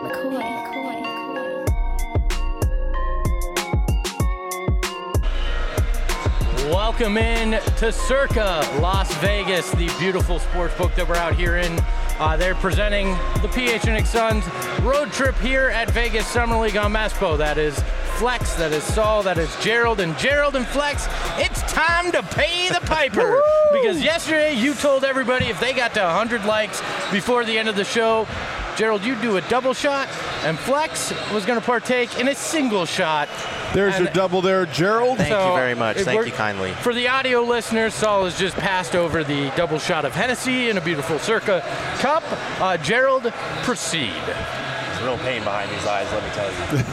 Welcome in to Circa Las Vegas, the beautiful sports book that we're out here in. They're presenting the PHNX Suns road trip here at Vegas Summer League on Maspo. That is Flex, that is Saul, that is Gerald. And Gerald and Flex, it's time to pay the piper. Because yesterday you told everybody if they got to 100 likes before the end of the show, Gerald, you do a double shot, and Flex was going to partake in a single shot. There's your double there, Gerald. Thank you very much. Thank you kindly. For the audio listeners, Saul has just passed over the double shot of Hennessy in a beautiful Circa cup. Gerald, proceed. There's real pain behind these eyes, let me tell you.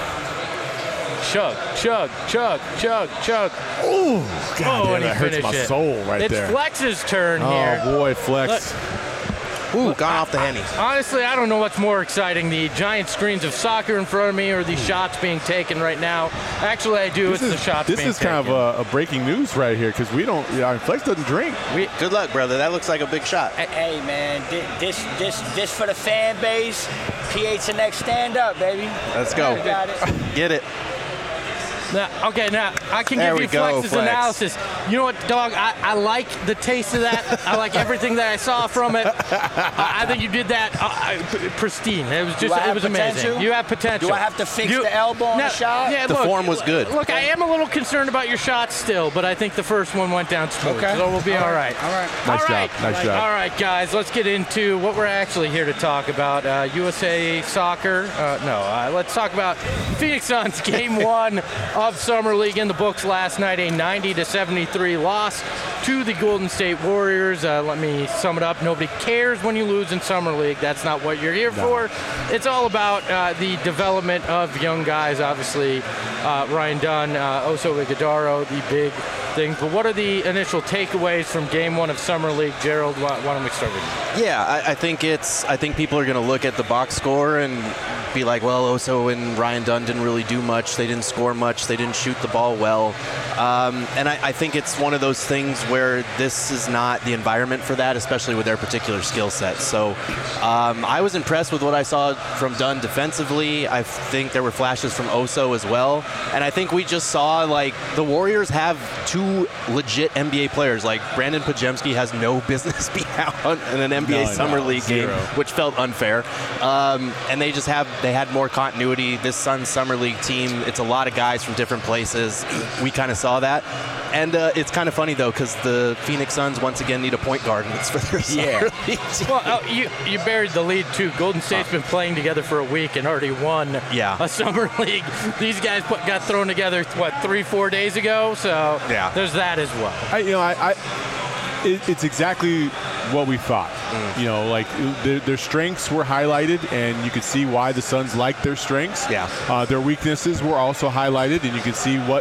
Chug, chug, chug, chug, chug. Ooh, God, and that hurts my soul right there. It's Flex's turn here. Oh, boy, Flex. Ooh, gone off the Henny. Honestly, I don't know what's more exciting, the giant screens of soccer in front of me or these shots being taken right now. Actually, I do. It's the shots being taken. This is kind of a breaking news right here because we don't, Flex doesn't drink. Good luck, brother. That looks like a big shot. Hey, man, this for the fan base. PHNX, stand up, baby. Let's go. Got it. Get it. Now I can There give we you go, Flex's Flex. analysis. You know what, dog? I like the taste of that. I like everything that I saw from it. I think you did that pristine. It was just, it was amazing. You have potential. Do I have to fix the elbow on the shot? Yeah, The form was good. Look, I am a little concerned about your shots still, but I think the first one went down smooth. Okay. So we'll be all right. All right. Nice All job. right. Nice job. All right, guys, let's get into what we're actually here to talk about. USA Soccer. Let's talk about Phoenix Suns Game 1 of Summer League in the books last night, a 90-73 loss to the Golden State Warriors. Let me sum it up. Nobody cares when you lose in Summer League. That's not what you're here for. It's all about the development of young guys, obviously. Ryan Dunn, Oso Ighodaro, the big things. But what are the initial takeaways from Game 1 of Summer League? Gerald, why don't we start with you? Yeah, I think people are going to look at the box score and be like, well, Oso and Ryan Dunn didn't really do much. They didn't score much. They didn't shoot the ball well. And I think it's one of those things where this is not the environment for that, especially with their particular skill set. So I was impressed with what I saw from Dunn defensively. I think there were flashes from Oso as well. And I think we just saw, like, the Warriors have two legit NBA players. Like, Brandon Pajemski has no business being out in an NBA Summer League game, which felt unfair. And they had more continuity. This Suns Summer League team, it's a lot of guys from different places. We kind of saw that. And it's kind of funny, though, because the Phoenix Suns once again need a point guard, and it's for their Summer League team. Well, you buried the lead, too. Golden State's been playing together for a week and already won a Summer League. These guys got thrown together, 3-4 days ago? So there's that as well. It's exactly what we thought. Their strengths were highlighted, and you could see why the Suns liked their strengths. Their weaknesses were also highlighted, and you can see what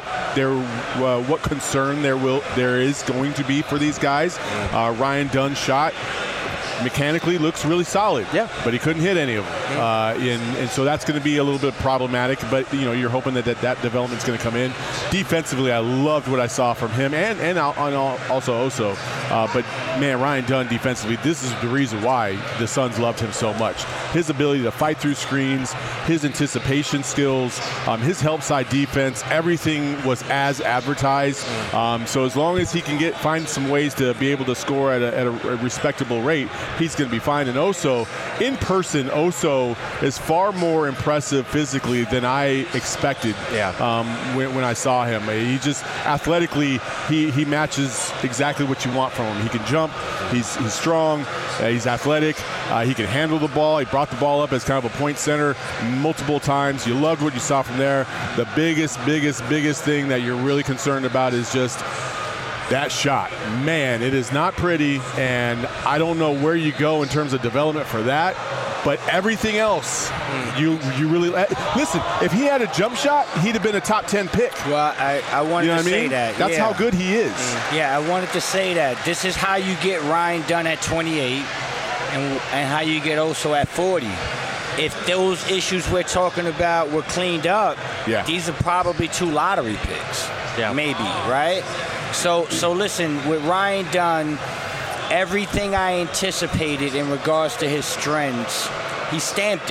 concern there is going to be for these guys. Ryan Dunn's shot mechanically looks really solid, but he couldn't hit any of them. And so that's going to be a little bit problematic, but you're hoping that development's going to come in. Defensively, I loved what I saw from him and also Oso. But man, Ryan Dunn defensively, this is the reason why the Suns loved him so much. His ability to fight through screens, his anticipation skills, his help side defense, everything was as advertised. So as long as he can find some ways to be able to score at a respectable rate, he's going to be fine. And Oso, in person, Oso is far more impressive physically than I expected when I saw him. He just, athletically, he matches exactly what you want from him. He can jump, he's strong, he's athletic, he can handle the ball. He brought the ball up as kind of a point center multiple times. You loved what you saw from there. The biggest thing that you're really concerned about is just that shot. Man, it is not pretty, and I don't know where you go in terms of development for that, but everything else, you really listen. If he had a jump shot, he'd have been a top 10 pick. Well, I wanted to say that. That's how good he is. Yeah, I wanted to say that. This is how you get Ryan Dunn at 28 and how you get Oso at 40. If those issues we're talking about were cleaned up, these are probably 2 lottery picks. Maybe, right? So listen, with Ryan Dunn, everything I anticipated in regards to his strengths, he stamped it.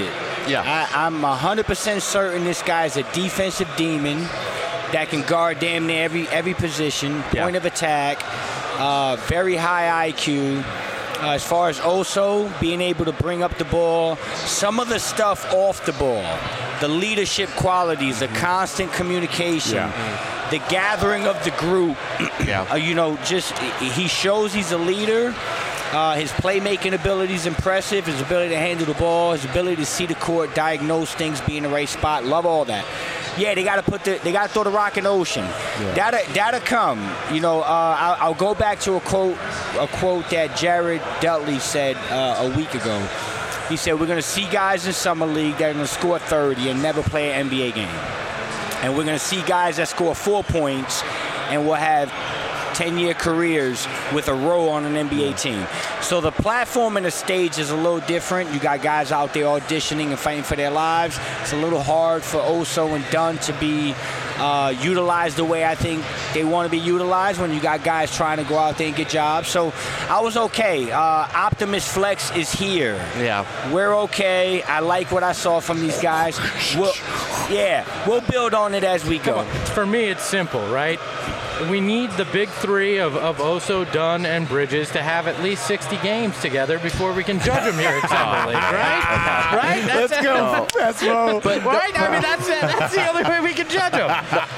Yeah. I'm 100% certain this guy's a defensive demon that can guard damn near every position, point of attack, very high IQ. As far as Oso being able to bring up the ball, some of the stuff off the ball, the leadership qualities, the constant communication, the gathering of the group, he shows he's a leader. His playmaking ability is impressive. His ability to handle the ball, his ability to see the court, diagnose things, be in the right spot. Love all that. Yeah, they got to throw the rock in the ocean. Yeah. That'll come. I'll go back to a quote that Jared Dudley said a week ago. He said, we're going to see guys in Summer League that are going to score 30 and never play an NBA game. And we're going to see guys that score 4 points and will have 10-year careers with a role on an NBA team. So the platform and the stage is a little different. You got guys out there auditioning and fighting for their lives. It's a little hard for Oso and Dunn to be utilized the way I think they want to be utilized when you got guys trying to go out there and get jobs. So I was okay. Optimus Flex is here. Yeah. We're okay. I like what I saw from these guys. We'll build on it as we go. For me, it's simple, right? We need the big three of Oso, Dunn, and Bridges to have at least 60 games together before we can judge them here at Summer League, right? Right? Let's go. That's low. Right? I mean, that's the only way we can judge them.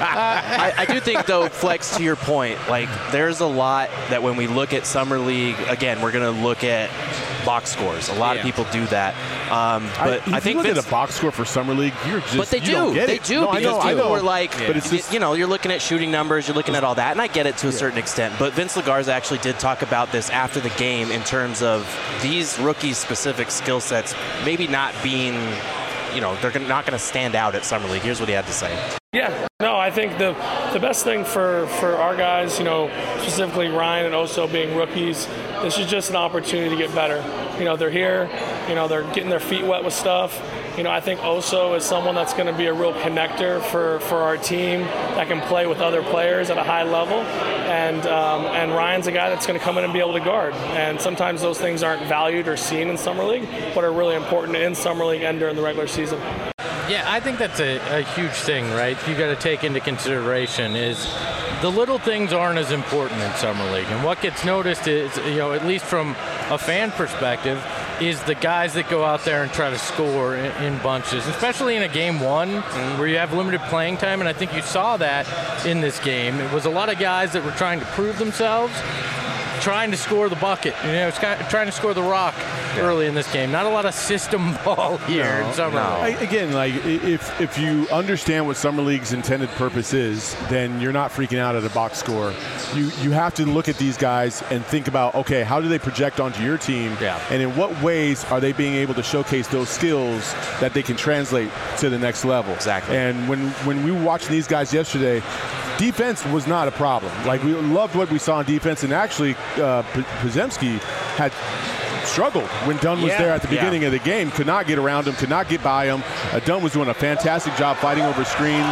I do think, though, Flex, to your point, like, there's a lot that when we look at Summer League, again, we're going to look at box scores. A lot of people do that. But I think you look at a box score for Summer League, you're just, but they do. Don't get they it. do. No, Because people were like, but it's just, you're looking at shooting numbers, you're looking at all that, and I get it to a certain extent. But Vince Lagarza actually did talk about this after the game in terms of these rookie-specific skill sets maybe not being, they're not going to stand out at Summer League. Here's what he had to say. Yeah, no, I think the best thing for our guys, specifically Ryan and Oso being rookies, this is just an opportunity to get better. They're here, they're getting their feet wet with stuff. I think Oso is someone that's going to be a real connector for our team that can play with other players at a high level. And Ryan's a guy that's going to come in and be able to guard. And sometimes those things aren't valued or seen in Summer League, but are really important in Summer League and during the regular season. Yeah, I think that's a huge thing, right? You got to take into consideration is the little things aren't as important in Summer League. And what gets noticed is, at least from a fan perspective, is the guys that go out there and try to score in bunches, especially in a game one where you have limited playing time. And I think you saw that in this game. It was a lot of guys that were trying to prove themselves, trying to score the bucket, trying to score the rock early in this game. Not a lot of system ball here in Summer League. Again, like if you understand what Summer League's intended purpose is, then you're not freaking out at a box score. You have to look at these guys and think about, okay, how do they project onto your team? Yeah. And in what ways are they being able to showcase those skills that they can translate to the next level? Exactly. And when we were watching these guys yesterday, defense was not a problem. Like, we loved what we saw on defense, and actually Podziemski had struggled when Dunn was there at the beginning of the game. Could not get around him, could not get by him. Dunn was doing a fantastic job fighting over screens.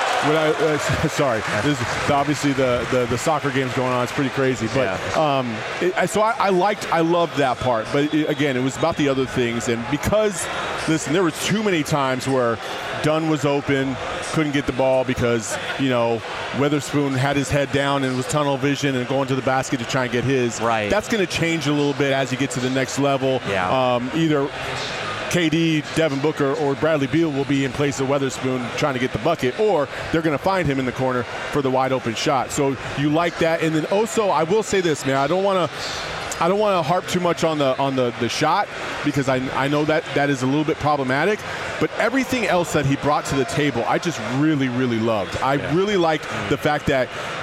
Sorry, this is obviously the soccer game's going on. It's pretty crazy, but so I loved that part. But again, it was about the other things, and because listen, there were too many times where Dunn was open, couldn't get the ball because Weatherspoon had his head down and was tunnel vision and going to the basket to try and get his. Right. That's going to change a little bit as you get to the next level. Yeah. Either KD, Devin Booker, or Bradley Beal will be in place of Weatherspoon trying to get the bucket, or they're going to find him in the corner for the wide open shot. So you like that. And then also, I will say this, man, I don't want to harp too much on the shot because I know that is a little bit problematic. But everything else that he brought to the table, I just really, really loved. I really liked the fact that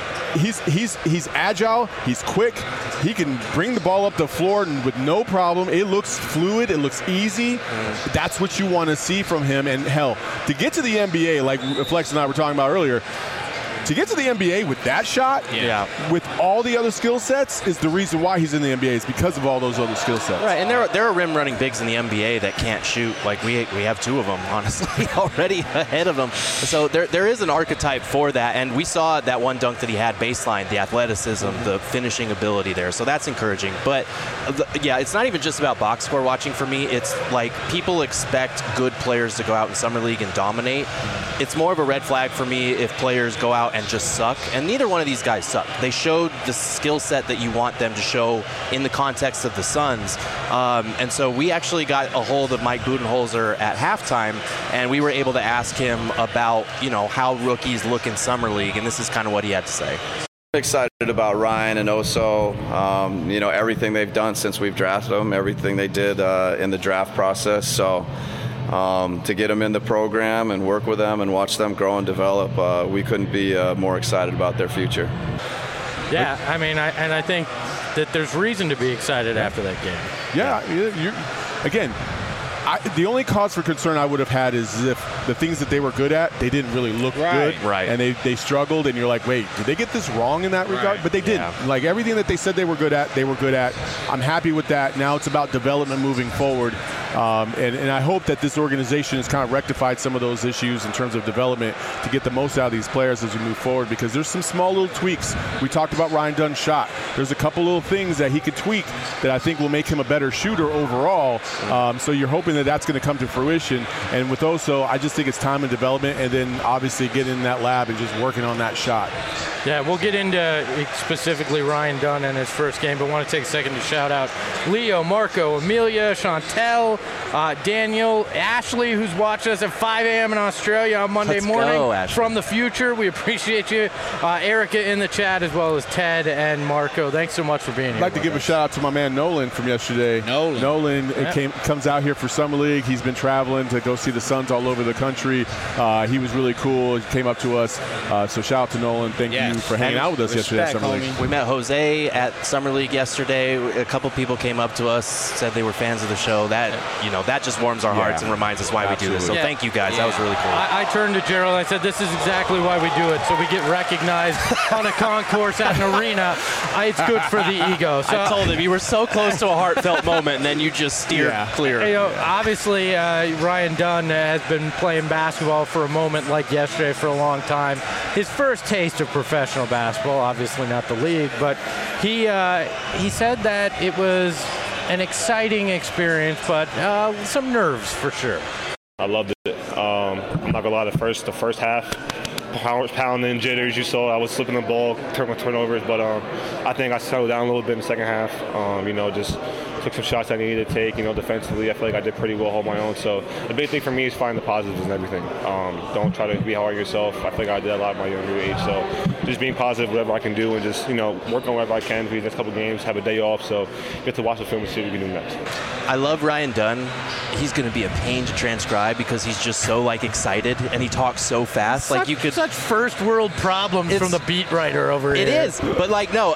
he's agile, he's quick, he can bring the ball up the floor with no problem. It looks fluid, it looks easy. That's what you want to see from him. And hell, to get to the NBA, like Flex and I were talking about earlier, to get to the NBA with that shot, with all the other skill sets, is the reason why he's in the NBA. Is because of all those other skill sets. Right, and there are rim running bigs in the NBA that can't shoot. Like we have 2 of them, honestly, already ahead of them. So there is an archetype for that, and we saw that one dunk that he had baseline, the athleticism, the finishing ability there. So that's encouraging. But it's not even just about box score watching for me. It's like people expect good players to go out in Summer League and dominate. It's more of a red flag for me if players go out and just suck, and neither one of these guys suck. They showed the skill set that you want them to show in the context of the Suns. And so we actually got a hold of Mike Budenholzer at halftime, and we were able to ask him about, how rookies look in Summer League, and this is kind of what he had to say. Excited about Ryan and Oso, everything they've done since we've drafted them, everything they did in the draft process. So to get them in the program and work with them and watch them grow and develop, we couldn't be more excited about their future. Yeah, I mean, I think that there's reason to be excited after that game. Yeah, again, the only cause for concern I would have had is if the things that they were good at, they didn't really look good. Right. And they struggled, and you're like, wait, did they get this wrong in that regard? But they didn't. Like, everything that they said they were good at, they were good at. I'm happy with that. Now it's about development moving forward. And I hope that this organization has kind of rectified some of those issues in terms of development to get the most out of these players as we move forward, because there's some small little tweaks. We talked about Ryan Dunn's shot. There's a couple little things that he could tweak that I think will make him a better shooter overall. So you're hoping that that's going to come to fruition. And with Oso, I just think it's time and development, and then obviously get in that lab and just working on that shot. Yeah, we'll get into specifically Ryan Dunn in his first game, but want to take a second to shout out Leo, Marco, Amelia, Chantel, Daniel, Ashley, who's watching us at 5 a.m. in Australia on Monday morning from the future. We appreciate you. Erica in the chat, as well as Ted and Marco. Thanks so much for being here. I'd like to give a shout out to my man Nolan from yesterday. Nolan comes out here for Summer League. He's been traveling to go see the Suns all over the country. He was really cool. He came up to us. So shout out to Nolan. Thank you for hanging out with us yesterday at Summer League. We met Jose at Summer League yesterday. A couple people came up to us, said they were fans of the show. That just warms our hearts and reminds us why we do this. So thank you guys. That was really cool. I turned to Gerald and I said, this is exactly why we do it, so we get recognized on a concourse at an arena. It's good for the ego. So I told him you were so close to a heartfelt moment, and then you just steered clear. Obviously, Ryan Dunn has been playing basketball for a moment like yesterday for a long time. His first taste of professional basketball, obviously not the league, but he said that it was an exciting experience, but some nerves for sure. I loved it. I'm not gonna lie, the first half, pounding jitters. You saw I was slipping the ball, turnovers, but I think I settled down a little bit in the second half. Just took some shots I needed to take. Defensively, I feel like I did pretty well, hold my own. So the big thing for me is find the positives in everything. Don't try to be hard on yourself. I feel like I did a lot at my younger age. So just being positive, whatever I can do, and just work on whatever I can for the next couple of games. Have a day off, so get to watch the film and see what we can do next. I love Ryan Dunn. He's going to be a pain to transcribe because he's just so excited and he talks so fast. Such first world problems from the beat writer over here. It is, but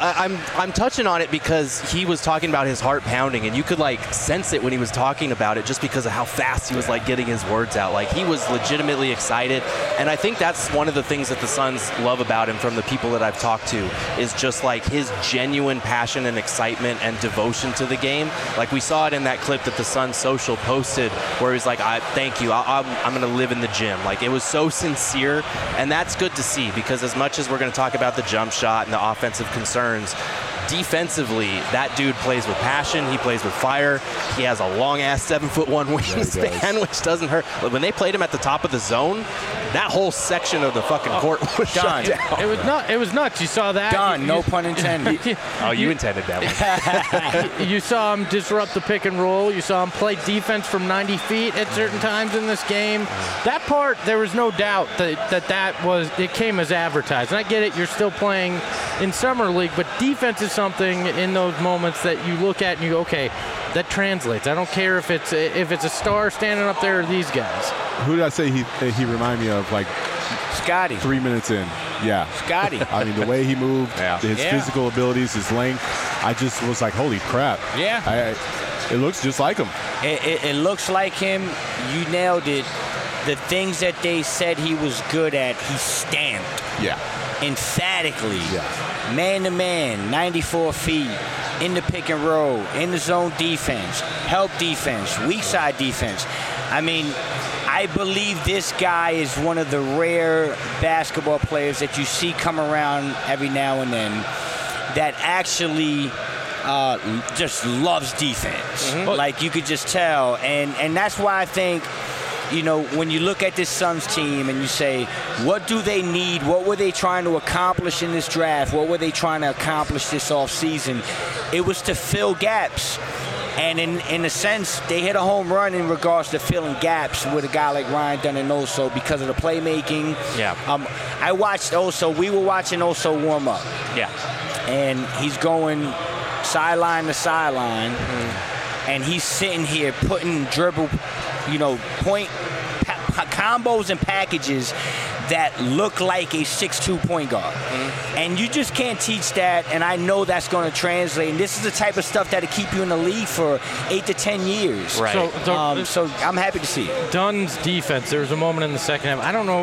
I'm touching on it because he was talking about his heart pounding, and you could sense it when he was talking about it just because of how fast he was getting his words out. He was legitimately excited, and I think that's one of the things that the Suns love about him from the people that I've talked to is just his genuine passion and excitement and devotion to the game. We saw it in that clip that the Suns social posted where he was thank you, I'm going to live in the gym. It was so sincere, and that's good to see because as much as we're going to talk about the jump shot and the offensive concerns, defensively, that dude plays with passion. He plays with fire. He has a long-ass 7'1" wingspan, which doesn't hurt. But when they played him at the top of the zone, that whole section of the fucking court was shut down. It was nuts. You saw that. Done. No pun intended. You intended that one. You saw him disrupt the pick and roll. You saw him play defense from 90 feet at certain times in this game. That part, there was no doubt it came as advertised. And I get it. You're still playing in Summer League, but defense is something in those moments that you look at and you go, okay, that translates. I don't care if it's a star standing up there or these guys. Who did I say he reminded me of? Scotty. 3 minutes in. Yeah. Scotty. I mean, the way he moved, his physical abilities, his length, I just was like, holy crap. Yeah. It looks just like him. It looks like him. You nailed it. The things that they said he was good at, he stamped. Yeah. emphatically, man-to-man, 94 feet, in the pick and roll, in the zone defense, help defense, weak side defense. I mean, I believe this guy is one of the rare basketball players that you see come around every now and then that actually just loves defense. Like, you could just tell. And that's why I think, you know, when you look at this Suns team and you say, what do they need? What were they trying to accomplish in this draft? What were they trying to accomplish this offseason? It was to fill gaps. And in a sense, they hit a home run in regards to filling gaps with a guy like Ryan Dunn and Oso because of the playmaking. Yeah. I watched Oso. We were watching Oso warm up. Yeah. And he's going sideline to sideline. And he's sitting here putting dribble, you know, point combos and packages that look like a 6'2" point guard. And you just can't teach that, and I know that's going to translate. And this is the type of stuff that'll keep you in the league for 8 to 10 years. Right. So I'm happy to see it. Dunn's defense, there was a moment in the second half. I don't know.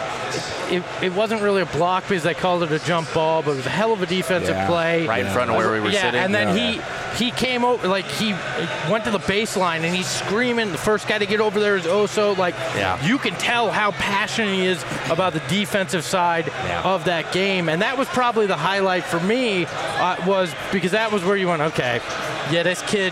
It wasn't really a block because they called it a jump ball, but it was a hell of a defensive play. Right in front of where we were sitting. And then he came over, like, he went to the baseline, and he's screaming. The first guy to get over there is Oso. Like, you can tell how passionate he is about the defensive side of that game. And that was probably the highlight for me, was because that was where you went, okay, yeah, this kid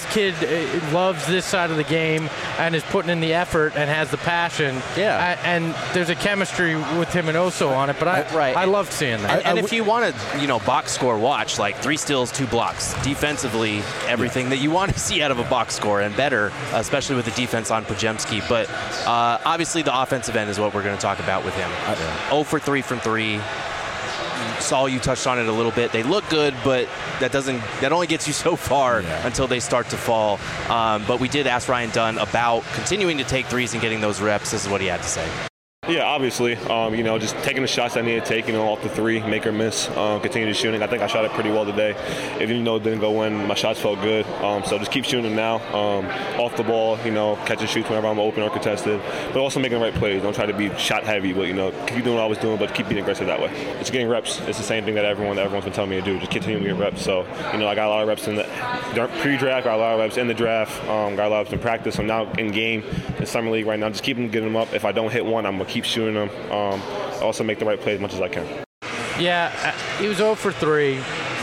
loves this side of the game and is putting in the effort and has the passion. Yeah. And there's a chemistry with him and Oso on it, but I loved seeing that. And if you want to, you know, box score watch, like 3 steals, 2 blocks, defensively, everything that you want to see out of a box score and better, especially with the defense on Podziemski. But obviously the offensive end is what we're going to talk about with him. 0 for 3 from 3. Saul, you touched on it a little bit. They look good, but that only gets you so far until they start to fall. But we did ask Ryan Dunn about continuing to take threes and getting those reps. This is what he had to say. Yeah, obviously, you know, just taking the shots I need to take, you know, off the three, make or miss, continue to shooting. I think I shot it pretty well today. Even though it didn't go in, my shots felt good. So just keep shooting them now, off the ball, you know, catch and shoots whenever I'm open or contested, but also making the right plays. Don't try to be shot heavy, but, you know, keep doing what I was doing, but keep being aggressive that way. It's getting reps. It's the same thing that everyone's been telling me to do. Just continue to get reps. So, you know, I got a lot of reps in the pre-draft, got a lot of reps in the draft, got a lot of reps in practice. I'm now in game in Summer League right now. Just keep getting them up. If I don't hit one, I'm going to keep shooting them. Also make the right play as much as I can. Yeah, he was 0 for 3.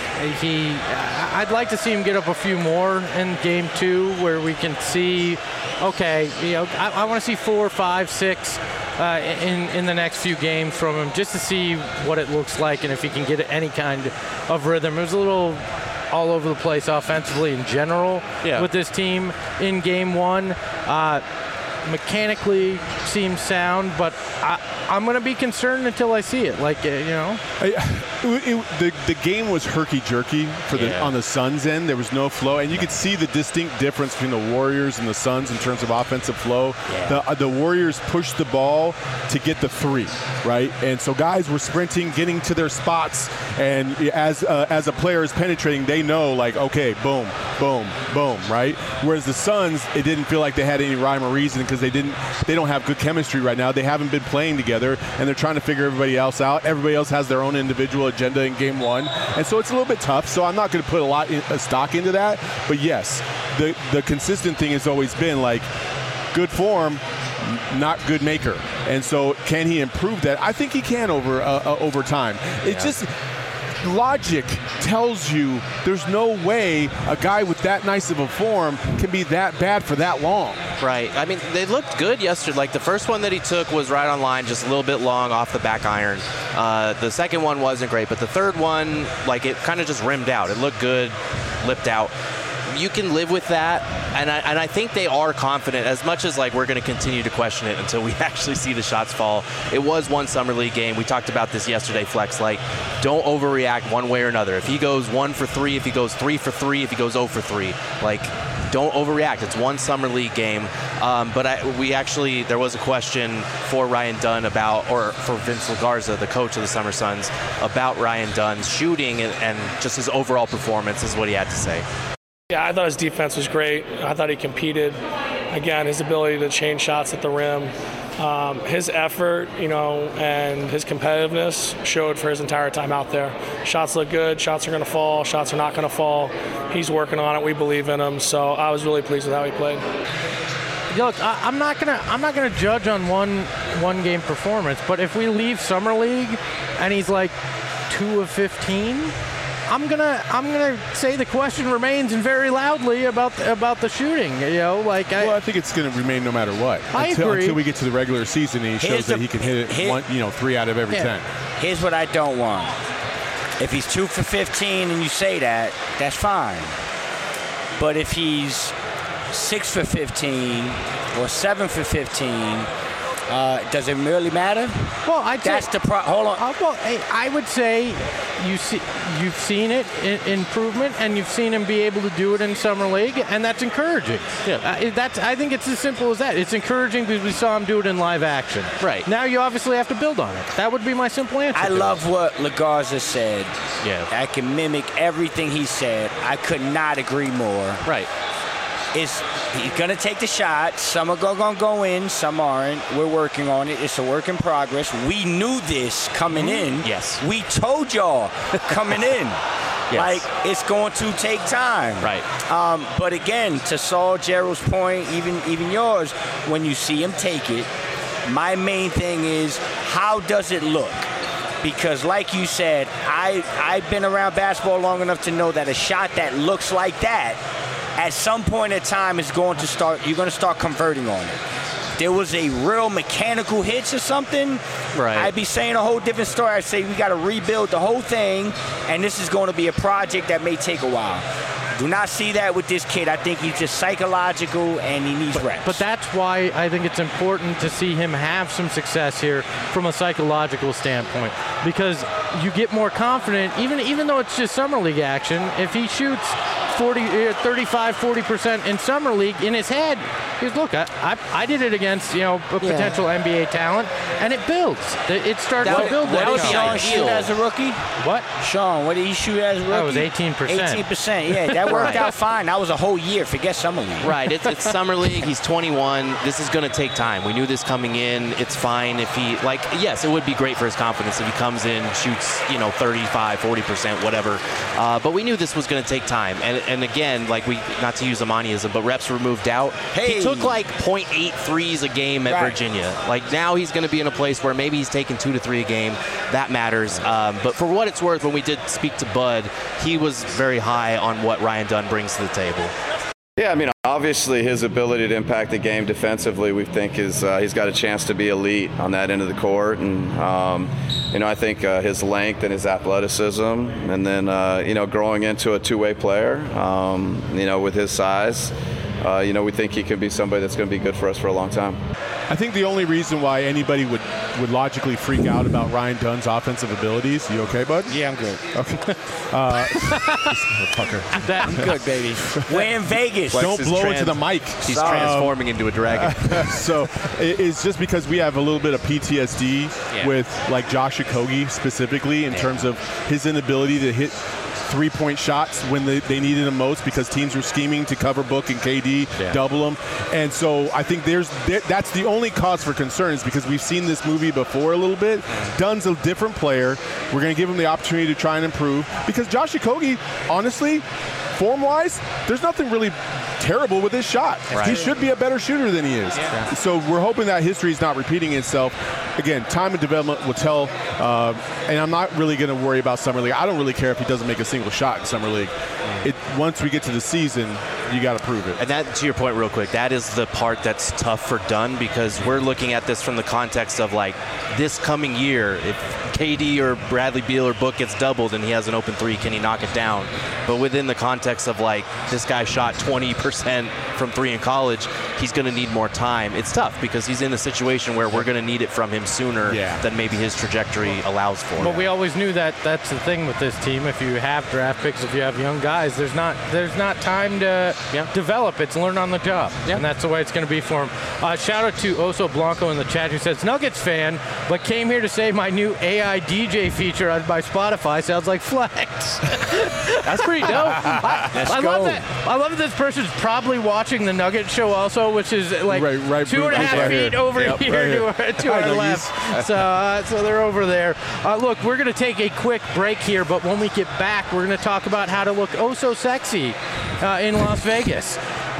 I'd like to see him get up a few more in game 2 where we can see, okay, you know, I want to see 4, 5, 6 in the next few games from him just to see what it looks like and if he can get any kind of rhythm. It was a little all over the place offensively in general with this team in game 1. Mechanically seems sound, but I'm going to be concerned until I see it. Like, you know, the game was herky-jerky on the Suns' end. There was no flow, and you could see the distinct difference between the Warriors and the Suns in terms of offensive flow. The Warriors pushed the ball to get the 3, right? And so guys were sprinting, getting to their spots, and as a player is penetrating, they know, like, okay, boom, boom, boom, right? Whereas the Suns, it didn't feel like they had any rhyme or reason because they don't have good chemistry right now. They haven't been playing together, and they're trying to figure everybody else out. Everybody else has their own individual agenda in game 1, and so it's a little bit tough. So I'm not going to put a lot of stock into that. But yes, the consistent thing has always been like good form, not good maker. And so can he improve that? I think he can over time. It's just logic tells you there's no way a guy with that nice of a form can be that bad for that long. Right. I mean, they looked good yesterday. Like, the first one that he took was right on line, just a little bit long off the back iron. The second one wasn't great, but the third one, like, it kind of just rimmed out. It looked good, lipped out. You can live with that, and I think they are confident, as much as, like, we're going to continue to question it until we actually see the shots fall. It was one Summer League game. We talked about this yesterday, Flex. Like, don't overreact one way or another. If he goes 1 for 3, if he goes 3 for 3, if he goes 0 for 3, like, don't overreact. It's one Summer League game. But there was a question for Ryan Dunn or for Vince LaGarza, the coach of the Summer Suns, about Ryan Dunn's shooting and just his overall performance, is what he had to say. Yeah, I thought his defense was great. I thought he competed. again, his ability to change shots at the rim, his effort, and his competitiveness showed for his entire time out there. Shots look good. Shots are going to fall. Shots are not going to fall. He's working on it. We believe in him. So I was really pleased with how he played. Look, I'm not gonna judge on one game performance, but if we leave Summer League and he's like 2 of 15, I'm gonna say the question remains and very loudly about the shooting. I think it's gonna remain no matter what. I agree. Until we get to the regular season and he shows that he can hit it 3 out of every 10. Here's what I don't want. If he's 2 for 15 and you say that, that's fine. But if he's 6 for 15 or 7 for 15, does it really matter? Well, hold on. I would say you've seen it improvement, and you've seen him be able to do it in Summer League, and that's encouraging. Yeah. I think it's as simple as that. It's encouraging because we saw him do it in live action. Right. Now you obviously have to build on it. That would be my simple answer. I love what LaGarza said. Yeah. I can mimic everything he said. I could not agree more. Right. He's going to take the shot. Some are going to go in, some aren't. We're working on it. It's a work in progress. We knew this coming in. Yes. We told y'all coming in. Yes. Like, it's going to take time. Right. But again, to Saul, Gerald's point, even yours, when you see him take it, my main thing is, how does it look? Because like you said, I've been around basketball long enough to know that a shot that looks like that, at some point in time, you're going to start converting on it. There was a real mechanical hitch or something, right, I'd be saying a whole different story. I'd say we got to rebuild the whole thing, and this is going to be a project that may take a while. Do not see that with this kid. I think he's just psychological and he needs reps. But that's why I think it's important to see him have some success here from a psychological standpoint, because you get more confident, even though it's just Summer League action. If he shoots 35-40% in Summer League, in his head, he's, look, I did it against a potential NBA talent, and it builds. It starts to build. What did Sean shoot as a rookie? What? Sean, what did he shoot as a rookie? That was 18%. 18%, yeah. That worked out fine. That was a whole year. Forget Summer League. Right. It's Summer League. He's 21. This is going to take time. We knew this coming in. It's fine if he, yes, it would be great for his confidence if he comes in, shoots, 35, 40%, whatever. But we knew this was going to take time. And again, not to use Amaniism, but reps were moved out. Hey. He took 0.8 threes a game at Virginia. Now he's going to be in a place where maybe he's taking 2 to 3 a game. That matters. But for what it's worth, when we did speak to Bud, he was very high on what Ryan Dunn brings to the table. Yeah, obviously his ability to impact the game defensively, we think he's got a chance to be elite on that end of the court. And, I think his length and his athleticism, and then, growing into a two-way player, with his size, we think he could be somebody that's going to be good for us for a long time. I think the only reason why anybody would logically freak out about Ryan Dunn's offensive abilities, you okay, bud? Yeah, I'm good. Okay. I'm good, baby. We're in Vegas. Don't blow into the mic. He's transforming into a dragon. So it's just because we have a little bit of PTSD with Josh Okogie specifically in terms of his inability to hit three-point shots when they needed them most because teams were scheming to cover Book and KD, double them. And so I think that's the only cause for concern is because we've seen this movie before a little bit. Dunn's a different player. We're going to give him the opportunity to try and improve because Josh Okogie, honestly, form-wise, there's nothing really terrible with his shot. Right. He should be a better shooter than he is. Yeah. So we're hoping that history is not repeating itself. Again, time and development will tell, and I'm not really going to worry about Summer League. I don't really care if he doesn't make a single shot in Summer League. Once we get to the season, you got to prove it. And that, to your point real quick, that is the part that's tough for Dunn because we're looking at this from the context of this coming year, if KD or Bradley Beal or Book gets doubled and he has an open three, can he knock it down? But within the context of this guy shot 20% from three in college, he's going to need more time. It's tough because he's in a situation where we're going to need it from him sooner than maybe his trajectory allows for. But we always knew that that's the thing with this team. If you have draft picks, if you have young guys, there's not time to develop. It's learn on the job. And that's the way it's going to be for him. Shout out to Oso Blanco in the chat who says, Nuggets fan, but came here to say my new AI DJ feature by Spotify sounds like Flex. That's pretty dope. I love that. I love that this person's probably watched watching the Nugget show also, which is like right 2.5 feet over yep, here right to our left. So they're over there. Look, we're going to take a quick break here, but when we get back, we're going to talk about how to look oh so sexy in Las Vegas.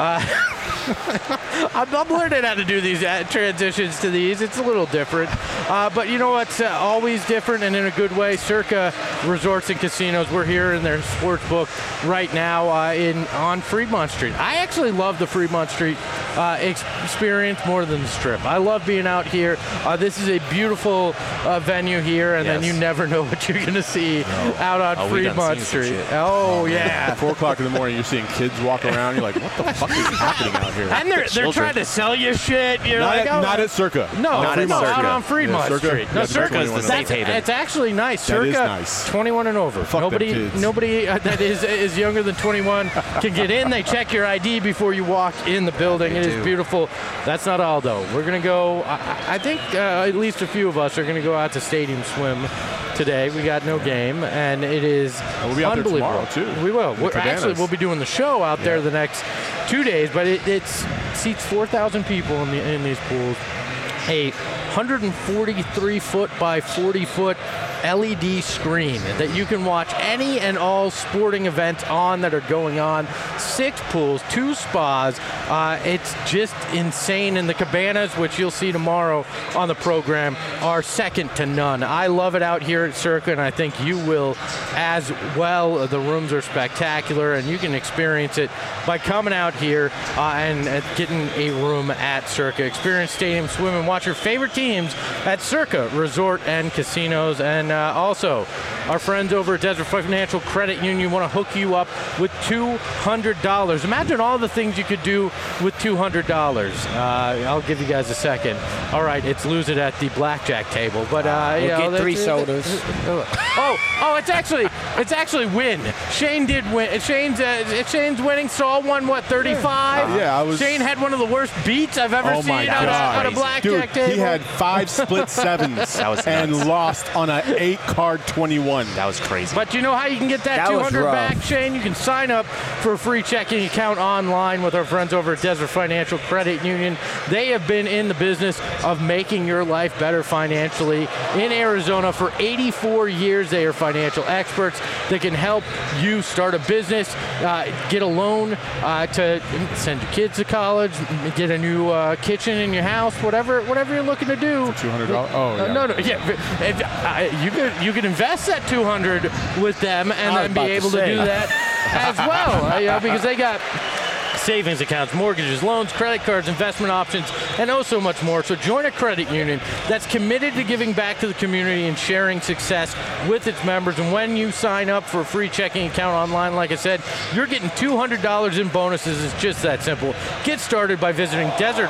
I'm learning how to do these transitions to these. It's a little different. But you know what's always different and in a good way? Circa Resorts and Casinos. We're here in their sports book right now on Fremont Street. I actually love the Fremont Street experience more than the Strip. I love being out here. This is a beautiful venue here, and then you never know what you're going to see out on Fremont Street. Oh, yeah. At 4 o'clock in the morning, you're seeing kids walk around. You're like, what the fuck is happening out here? And they're trying to sell you shit. You're not at Circa. No, not at Circa. Out on Fremont Street. No, Circa's the safe haven. It's actually nice. That Circa, is nice. 21 and over. Fuck Nobody that is younger than 21 can get in. They check your ID before you walk in the building. It is beautiful. That's not all, though. We're going to go, I think at least a few of us are going to go out to Stadium Swim today. We got no game, and it is we'll be out there tomorrow, too. We will. We'll be doing the show out there the next 2 days, but it seats 4,000 people in these pools. A 143-foot by 40-foot LED screen that you can watch any and all sporting events on that are going on. 6 pools, 2 spas. It's just insane. And the cabanas, which you'll see tomorrow on the program, are second to none. I love it out here at Circa, and I think you will as well. The rooms are spectacular, and you can experience it by coming out here and getting a room at Circa. Experience Stadium Swim and watch your favorite teams at Circa Resort and Casinos. And also, our friends over at Desert Financial Credit Union want to hook you up with $200. Imagine all the things you could do with $200. I'll give you guys a second. All right, it's lose it at the blackjack table, but we'll get 3 sodas. It's actually win. Shane did win. Shane's winning, so I won 35. Yeah, Shane had one of the worst beats I've ever seen on a blackjack table. He had 5 split sevens and lost on an 8-card 21. That was crazy. But you know how you can get that $200 back, Shane? You can sign up for a free checking account online with our friends over at Desert Financial Credit Union. They have been in the business of making your life better financially in Arizona for 84 years. They are financial experts that can help you start a business, get a loan to send your kids to college, get a new kitchen in your house, whatever you're looking to do. $200? Oh, yeah. No. Yeah, you can invest that $200 with them and then be able to do that as well. Because they got savings accounts, mortgages, loans, credit cards, investment options, and so much more. So join a credit union that's committed to giving back to the community and sharing success with its members. And when you sign up for a free checking account online, like I said, you're getting $200 in bonuses. It's just that simple. Get started by visiting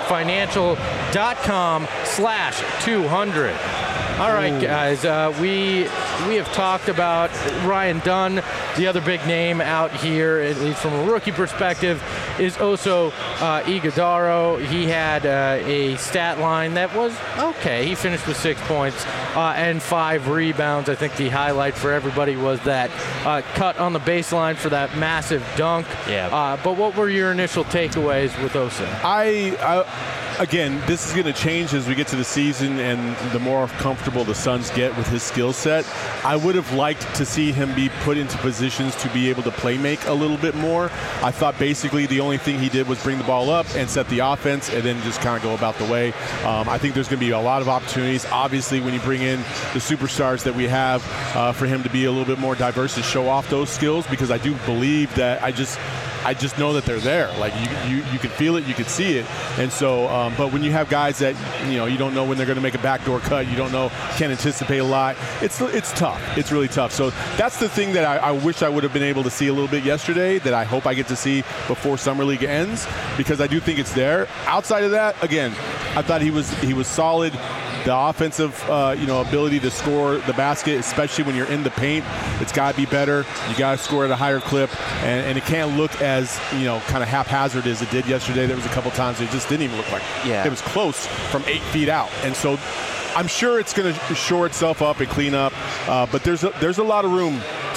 desertfinancial.com/200. All right, guys, we have talked about Ryan Dunn. The other big name out here, at least from a rookie perspective, is Oso Ighodaro. He had a stat line that was okay. He finished with 6 points and 5 rebounds. I think the highlight for everybody was that cut on the baseline for that massive dunk. Yeah. But what were your initial takeaways with Oso? Again, this is going to change as we get to the season and the more comfortable the Suns get with his skill set. I would have liked to see him be put into positions to be able to play make a little bit more. I thought basically the only thing he did was bring the ball up and set the offense and then just kind of go about the way. I think there's going to be a lot of opportunities. Obviously, when you bring in the superstars that we have, for him to be a little bit more diverse and show off those skills, because I do believe that I just know that they're there. Like you can feel it, you can see it. And so, but when you have guys that, you don't know when they're going to make a backdoor cut, you don't know, can't anticipate a lot. It's tough. It's really tough. So that's the thing that I wish I would have been able to see a little bit yesterday, that I hope I get to see before Summer League ends, because I do think it's there. Outside of that, again, I thought he was solid. The offensive, ability to score the basket, especially when you're in the paint, it's got to be better. You got to score at a higher clip, and it can't look as, kind of haphazard as it did yesterday. There was a couple times it just didn't even look like it was close from 8 feet out. And so I'm sure it's going to shore itself up and clean up, but there's a lot of room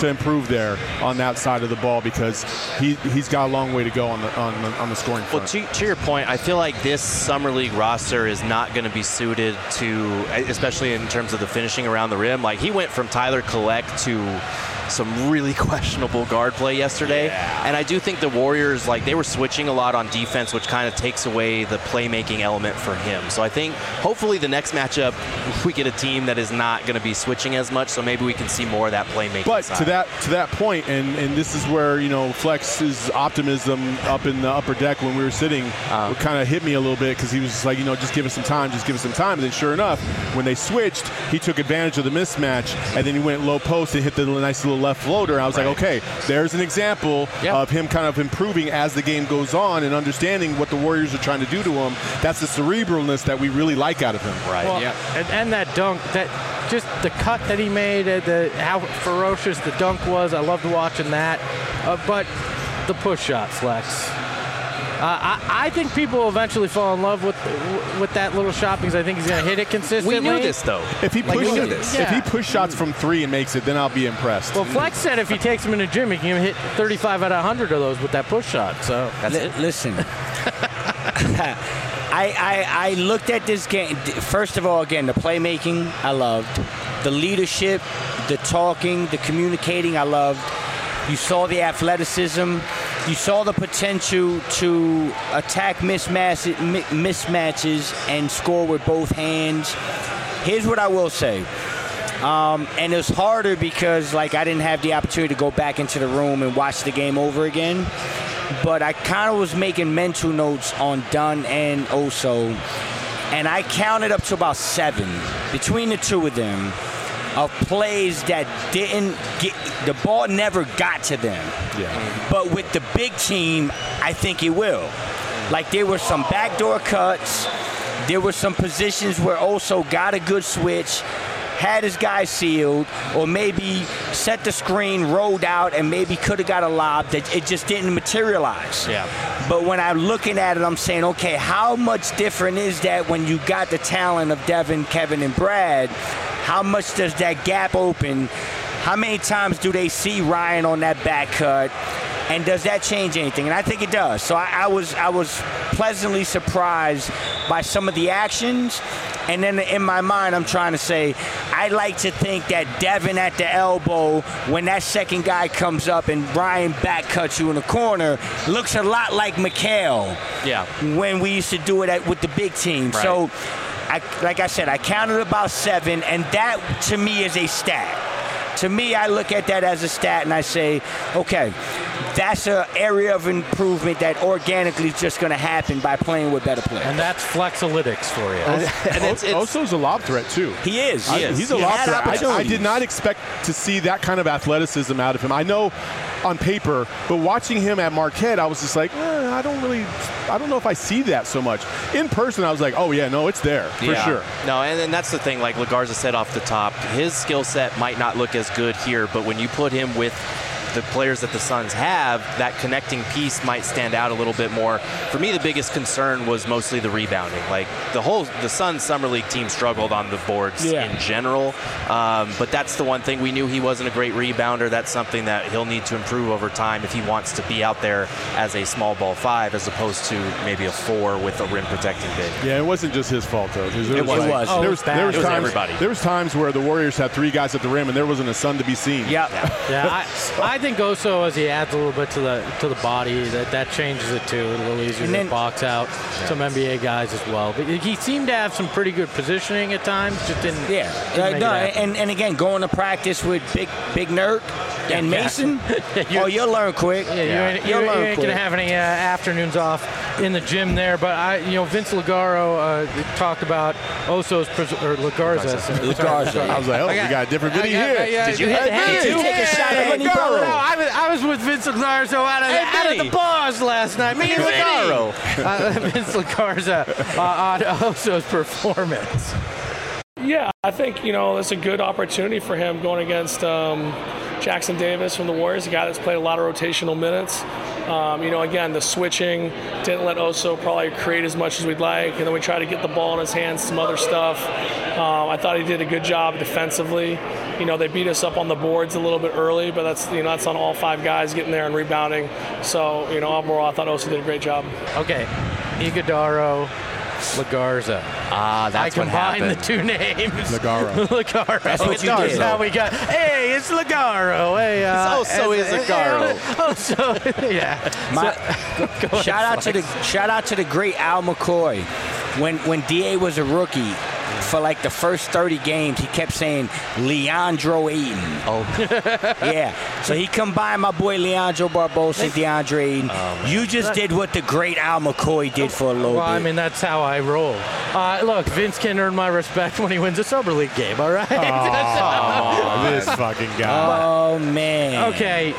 to improve there on that side of the ball because he's got a long way to go on the scoring front. Well, to your point, I feel like this Summer League roster is not going to be suited to, especially in terms of the finishing around the rim. Like, he went from Tyler Collette to some really questionable guard play yesterday. Yeah. And I do think the Warriors, like, they were switching a lot on defense, which kind of takes away the playmaking element for him. So I think hopefully the next matchup we get a team that is not going to be switching as much, so maybe we can see more of that playmaking But side. to that point, and this is where, Flex's optimism up in the upper deck when we were sitting kind of hit me a little bit because he was just like, just give us some time. And then sure enough, when they switched, he took advantage of the mismatch, and then he went low post and hit the nice little left floater. I was like, okay, there's an example of him kind of improving as the game goes on and understanding what the Warriors are trying to do to him. That's the cerebralness that we really like out of him. Right. Well, and that dunk, that just the cut that he made, how ferocious the dunk was. I loved watching that. But the push shot, Flex. I think people will eventually fall in love with that little shot because I think he's going to hit it consistently. We knew this, though. If he push shots from three and makes it, then I'll be impressed. Well, Flex said if he takes him in the gym, he can hit 35 out of 100 of those with that push shot. So that's it. Listen. I looked at this game. First of all, again, the playmaking I loved. The leadership, the talking, the communicating I loved. You saw the athleticism. You saw the potential to attack mismatches and score with both hands. Here's what I will say. And it was harder because, I didn't have the opportunity to go back into the room and watch the game over again. But I kind of was making mental notes on Dunn and Oso. And I counted up to about 7 between the two of them of plays that didn't get – the ball never got to them. Yeah. But with the big team, I think it will. There were some backdoor cuts. There were some positions where Oso got a good switch, had his guy sealed, or maybe set the screen, rolled out, and maybe could have got a lob that it just didn't materialize. Yeah. But when I'm looking at it, I'm saying, okay, how much different is that when you got the talent of Devin, Kevin, and Brad? How much does that gap open? How many times do they see Ryan on that back cut? And does that change anything? And I think it does. So I was pleasantly surprised by some of the actions. And then in my mind, I'm trying to say, I like to think that Devin at the elbow, when that second guy comes up and Ryan back cuts you in the corner, looks a lot like Mikal. Yeah. When we used to do it with the big team. Right. So, like I said, I counted about 7, and that to me is a stat. To me, I look at that as a stat, and I say, okay, that's an area of improvement that organically is just going to happen by playing with better players. And that's Flexalytics for you. And Oso's a lob threat, too. He is. He's a lob threat. I did not expect to see that kind of athleticism out of him. I know on paper, but watching him at Marquette, I was just like, I don't know if I see that so much. In person, I was like, oh, yeah, no, it's there for sure. No, and that's the thing, like LaGarza said off the top, his skill set might not look as good here, but when you put him with the players that the Suns have, that connecting piece might stand out a little bit more. For me, the biggest concern was mostly the rebounding. The Suns Summer League team struggled on the boards in general, but that's the one thing. We knew he wasn't a great rebounder. That's something that he'll need to improve over time if he wants to be out there as a small ball 5 as opposed to maybe a 4 with a rim protecting big. Yeah, it wasn't just his fault, though. It was. There was times, everybody. There was times where the Warriors had 3 guys at the rim and there wasn't a sun to be seen. Yeah. I think Oso, as he adds a little bit to the body, that changes it too. A little easier to box out some NBA guys as well. But he seemed to have some pretty good positioning at times. Just didn't. And again, going to practice with Big Nurk and Mason. You'll learn quick. You ain't gonna have any afternoons off in the gym there. But Vince Lagaro talked about Oso's LaGarza. I was like, we got a different video here. Did you hit the head too? Take a shot at Vinny Lagaro. No, I was with Vince Lagaro out of the bars last night. Me and Lagaro. Vince Lagarza on Oso's performance. Yeah, I think, it's a good opportunity for him going against Jackson Davis from the Warriors, a guy that's played a lot of rotational minutes. Again, the switching didn't let Oso probably create as much as we'd like, and then we tried to get the ball in his hands, some other stuff. I thought he did a good job defensively. They beat us up on the boards a little bit early, but that's on all 5 guys getting there and rebounding. So, overall, I thought Oso did a great job. Okay, Iguodaro, LaGarza. That's what happened. I combined the 2 names. Lagaro. That's what you did. Now we got, hey, it's Lagaro. Hey, Oso is Lagaro. Oso, yeah. Shout out to the great Al McCoy. When DA was a rookie, for like the first 30 games, he kept saying Leandro Ayton. Oh. Yeah. So he combined my boy Leandro Barbosa and DeAndre Ayton. You just did what the great Al McCoy did for a little bit. Well, I mean, that's how I roll. Look, Vince can earn my respect when he wins a Summer League game, all right? This fucking guy. Oh, man. Okay,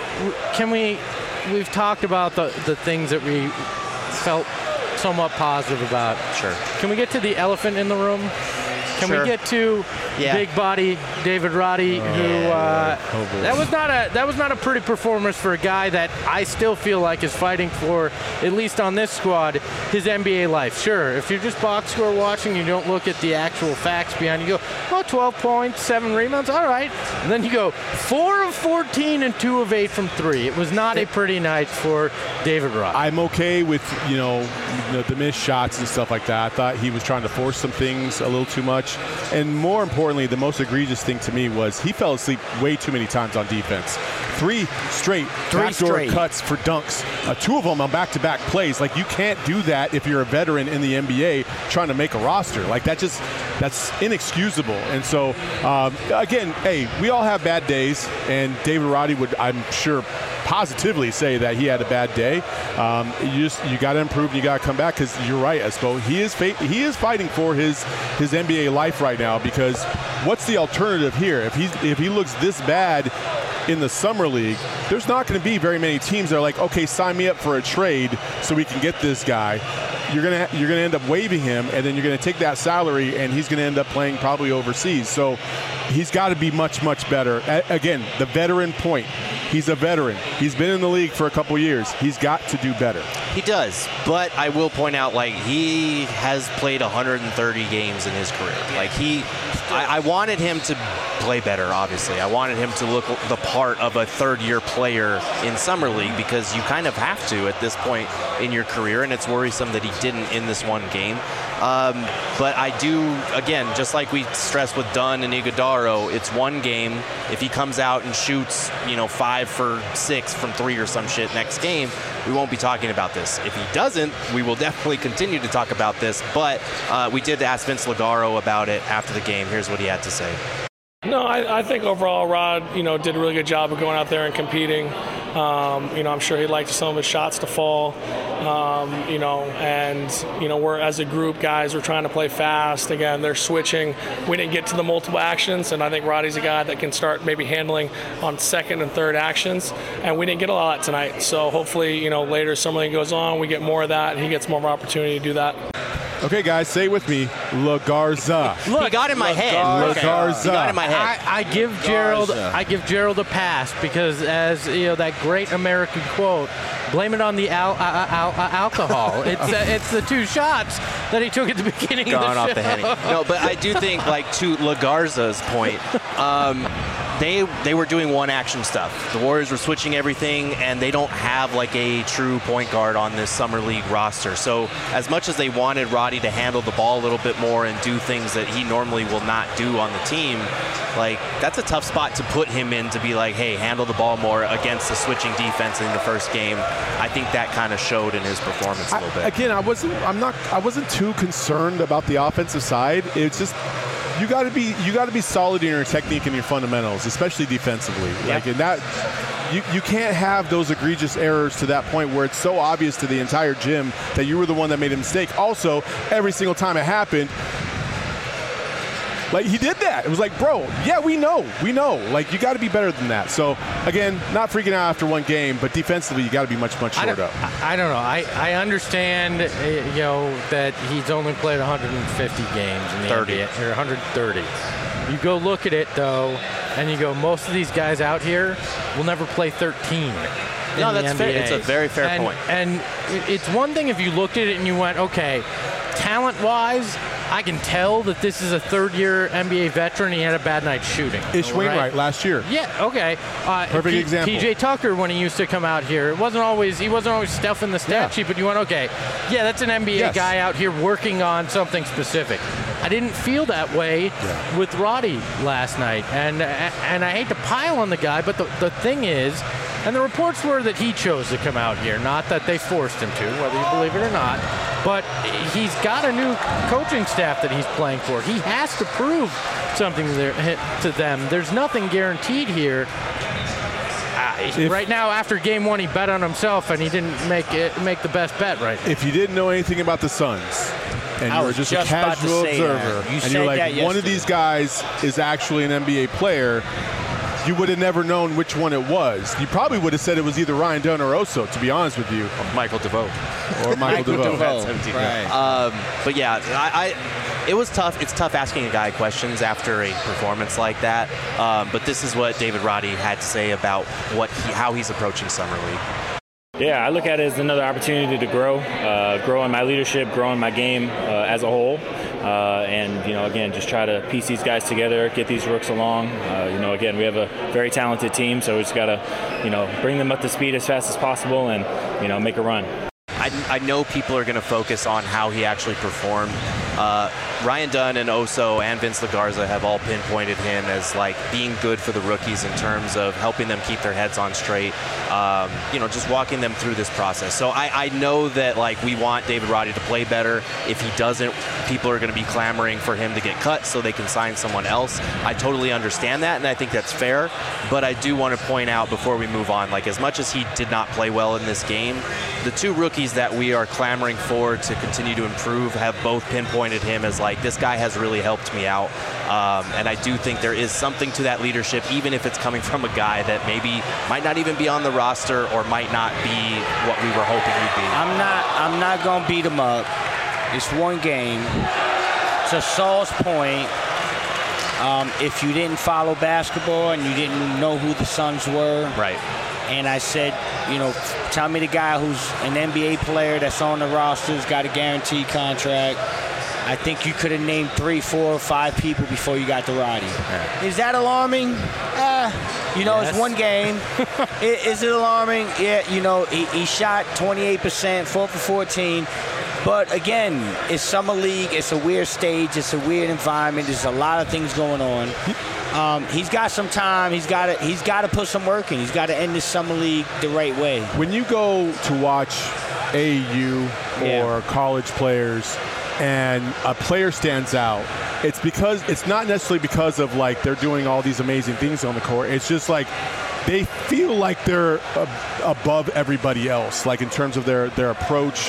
we've talked about the things that we felt somewhat positive about. Sure. Can we get to the elephant in the room? Can we get to big body David Roddy, that was not a pretty performance for a guy that I still feel like is fighting for, at least on this squad, his NBA life. Sure, if you're just box score watching, you don't look at the actual facts behind it. You go, 12 points, 7 rebounds, all right. And then you go 4 of 14 and 2 of 8 from 3. It was not a pretty night for David Roddy. I'm okay with the missed shots and stuff like that. I thought he was trying to force some things a little too much. And more importantly, the most egregious thing to me was he fell asleep way too many times on defense. 3 straight backdoor cuts for dunks. 2 of them on back-to-back plays. Like, you can't do that if you're a veteran in the NBA trying to make a roster. Like, that's inexcusable. And so, again, hey, we all have bad days, and David Roddy would, I'm sure, positively say that he had a bad day. You got to improve and you got to come back, because you're right, Espo. He is fighting for his NBA life right now, because what's the alternative here? If he looks this bad in the Summer League, there's not going to be very many teams that are like, okay, sign me up for a trade so we can get this guy. You're gonna end up waiving him, and then you're gonna take that salary, and he's gonna end up playing probably overseas. So he's got to be much, much better. Again, the veteran point. He's a veteran. He's been in the league for a couple years. He's got to do better. He does, but I will point out, he has played 130 games in his career. I wanted him to play better, obviously. I wanted him to look the part of a third-year player in Summer League, because you kind of have to at this point in your career, and it's worrisome that he didn't in this one game. But I do, again, just like we stressed with Dunn and Iguodaro, it's one game. If he comes out and shoots, 5 for 6 from 3 or some shit next game, we won't be talking about this. If he doesn't, we will definitely continue to talk about this. But we did ask Vince Lagaro about it after the game. Here's what he had to say. No, I think overall Rod, did a really good job of going out there and competing. I'm sure he liked some of his shots to fall. We're, as a group, guys, we're trying to play fast. Again, they're switching. We didn't get to the multiple actions, and I think Roddy's a guy that can start maybe handling on second and third actions, and we didn't get a lot tonight. So hopefully, later as Summer League goes on, we get more of that, and he gets more of an opportunity to do that. Okay, guys, say it with me. LaGarza. Look, he got in my head. LaGarza. He got in my head. I give Gerald a pass, because as that great American quote, blame it on the alcohol. It's the 2 shots that he took at the beginning of the show. Off the Henny. No, but I do think, to LaGarza's point, they were doing one action stuff. The Warriors were switching everything, and they don't have a true point guard on this Summer League roster. So as much as they wanted Roddy to handle the ball a little bit more and do things that he normally will not do on the team, that's a tough spot to put him in, to be hey, handle the ball more against the switching defense in the first game. I think that kind of showed in his performance a little bit. Again, I wasn't too concerned about the offensive side. It's just, you got to be solid in your technique and your fundamentals, especially defensively. Yeah. In that, you can't have those egregious errors to that point where it's so obvious to the entire gym that you were the one that made a mistake. Also, every single time it happened, he did that. It was bro, yeah, we know. You got to be better than that. So, again, not freaking out after one game, but defensively, you got to be much, much shorter. I don't know. I understand, that he's only played 150 games in the NBA, or 130. You go look at it, though, and you go, most of these guys out here will never play 13. No, that's fair. It's a very fair point. And it's one thing if you looked at it and you went, okay, talent-wise, I can tell that this is a third-year NBA veteran. He had a bad night shooting. Ish Wainwright last year. Yeah, okay. Perfect example. PJ Tucker, when he used to come out here, he wasn't always stuffing the stat sheet, but you went, okay, yeah, that's an NBA guy out here working on something specific. I didn't feel that way with Roddy last night, and I hate to pile on the guy, but the thing is, and the reports were that he chose to come out here, not that they forced him to, whether you believe it or not. But he's got a new coaching staff that he's playing for. He has to prove something to them. There's nothing guaranteed here. Right now, after game one, he bet on himself, and he didn't make the best bet right now. If you didn't know anything about the Suns, and you were just a casual observer, and you're like, one of these guys is actually an NBA player, you would have never known which one it was. You probably would have said it was either Ryan Dunn or Oso, to be honest with you. Or Michael DeVoe. Or Michael DeVoe. Right. But yeah, it was tough. It's tough asking a guy questions after a performance like that. But this is what David Roddy had to say about how he's approaching Summer League. Yeah, I look at it as another opportunity to grow in my leadership, grow in my game as a whole. And, again, just try to piece these guys together, get these rooks along. Again, we have a very talented team, so we just got to, bring them up to speed as fast as possible and, make a run. I know people are going to focus on how he actually performed. Ryan Dunn and Oso and Vince LaGarza have all pinpointed him as being good for the rookies in terms of helping them keep their heads on straight, just walking them through this process. So I know that we want David Roddy to play better. If he doesn't, people are going to be clamoring for him to get cut so they can sign someone else. I totally understand that, and I think that's fair. But I do want to point out before we move on, as much as he did not play well in this game, the two rookies that we are clamoring for to continue to improve have both pinpointed him as this guy has really helped me out. And I do think there is something to that leadership, even if it's coming from a guy that maybe might not even be on the roster or might not be what we were hoping he'd be. I'm not going to beat him up. It's one game. To Saul's point, if you didn't follow basketball and you didn't know who the Suns were, right? And I said, tell me the guy who's an NBA player that's on the roster, who's got a guaranteed contract. I think you could have named 3, 4, 5 people before you got to Roddy. Yeah. Is that alarming? Yes. It's one game. Is it alarming? Yeah, he shot 28%, 4 for 14. But again, it's Summer League. It's a weird stage. It's a weird environment. There's a lot of things going on. He's got some time. He's got to put some work in. He's got to end this Summer League the right way. When you go to watch AAU or college players, and a player stands out, it's not necessarily because of they're doing all these amazing things on the court. It's just they feel like they're above everybody else, in terms of their approach,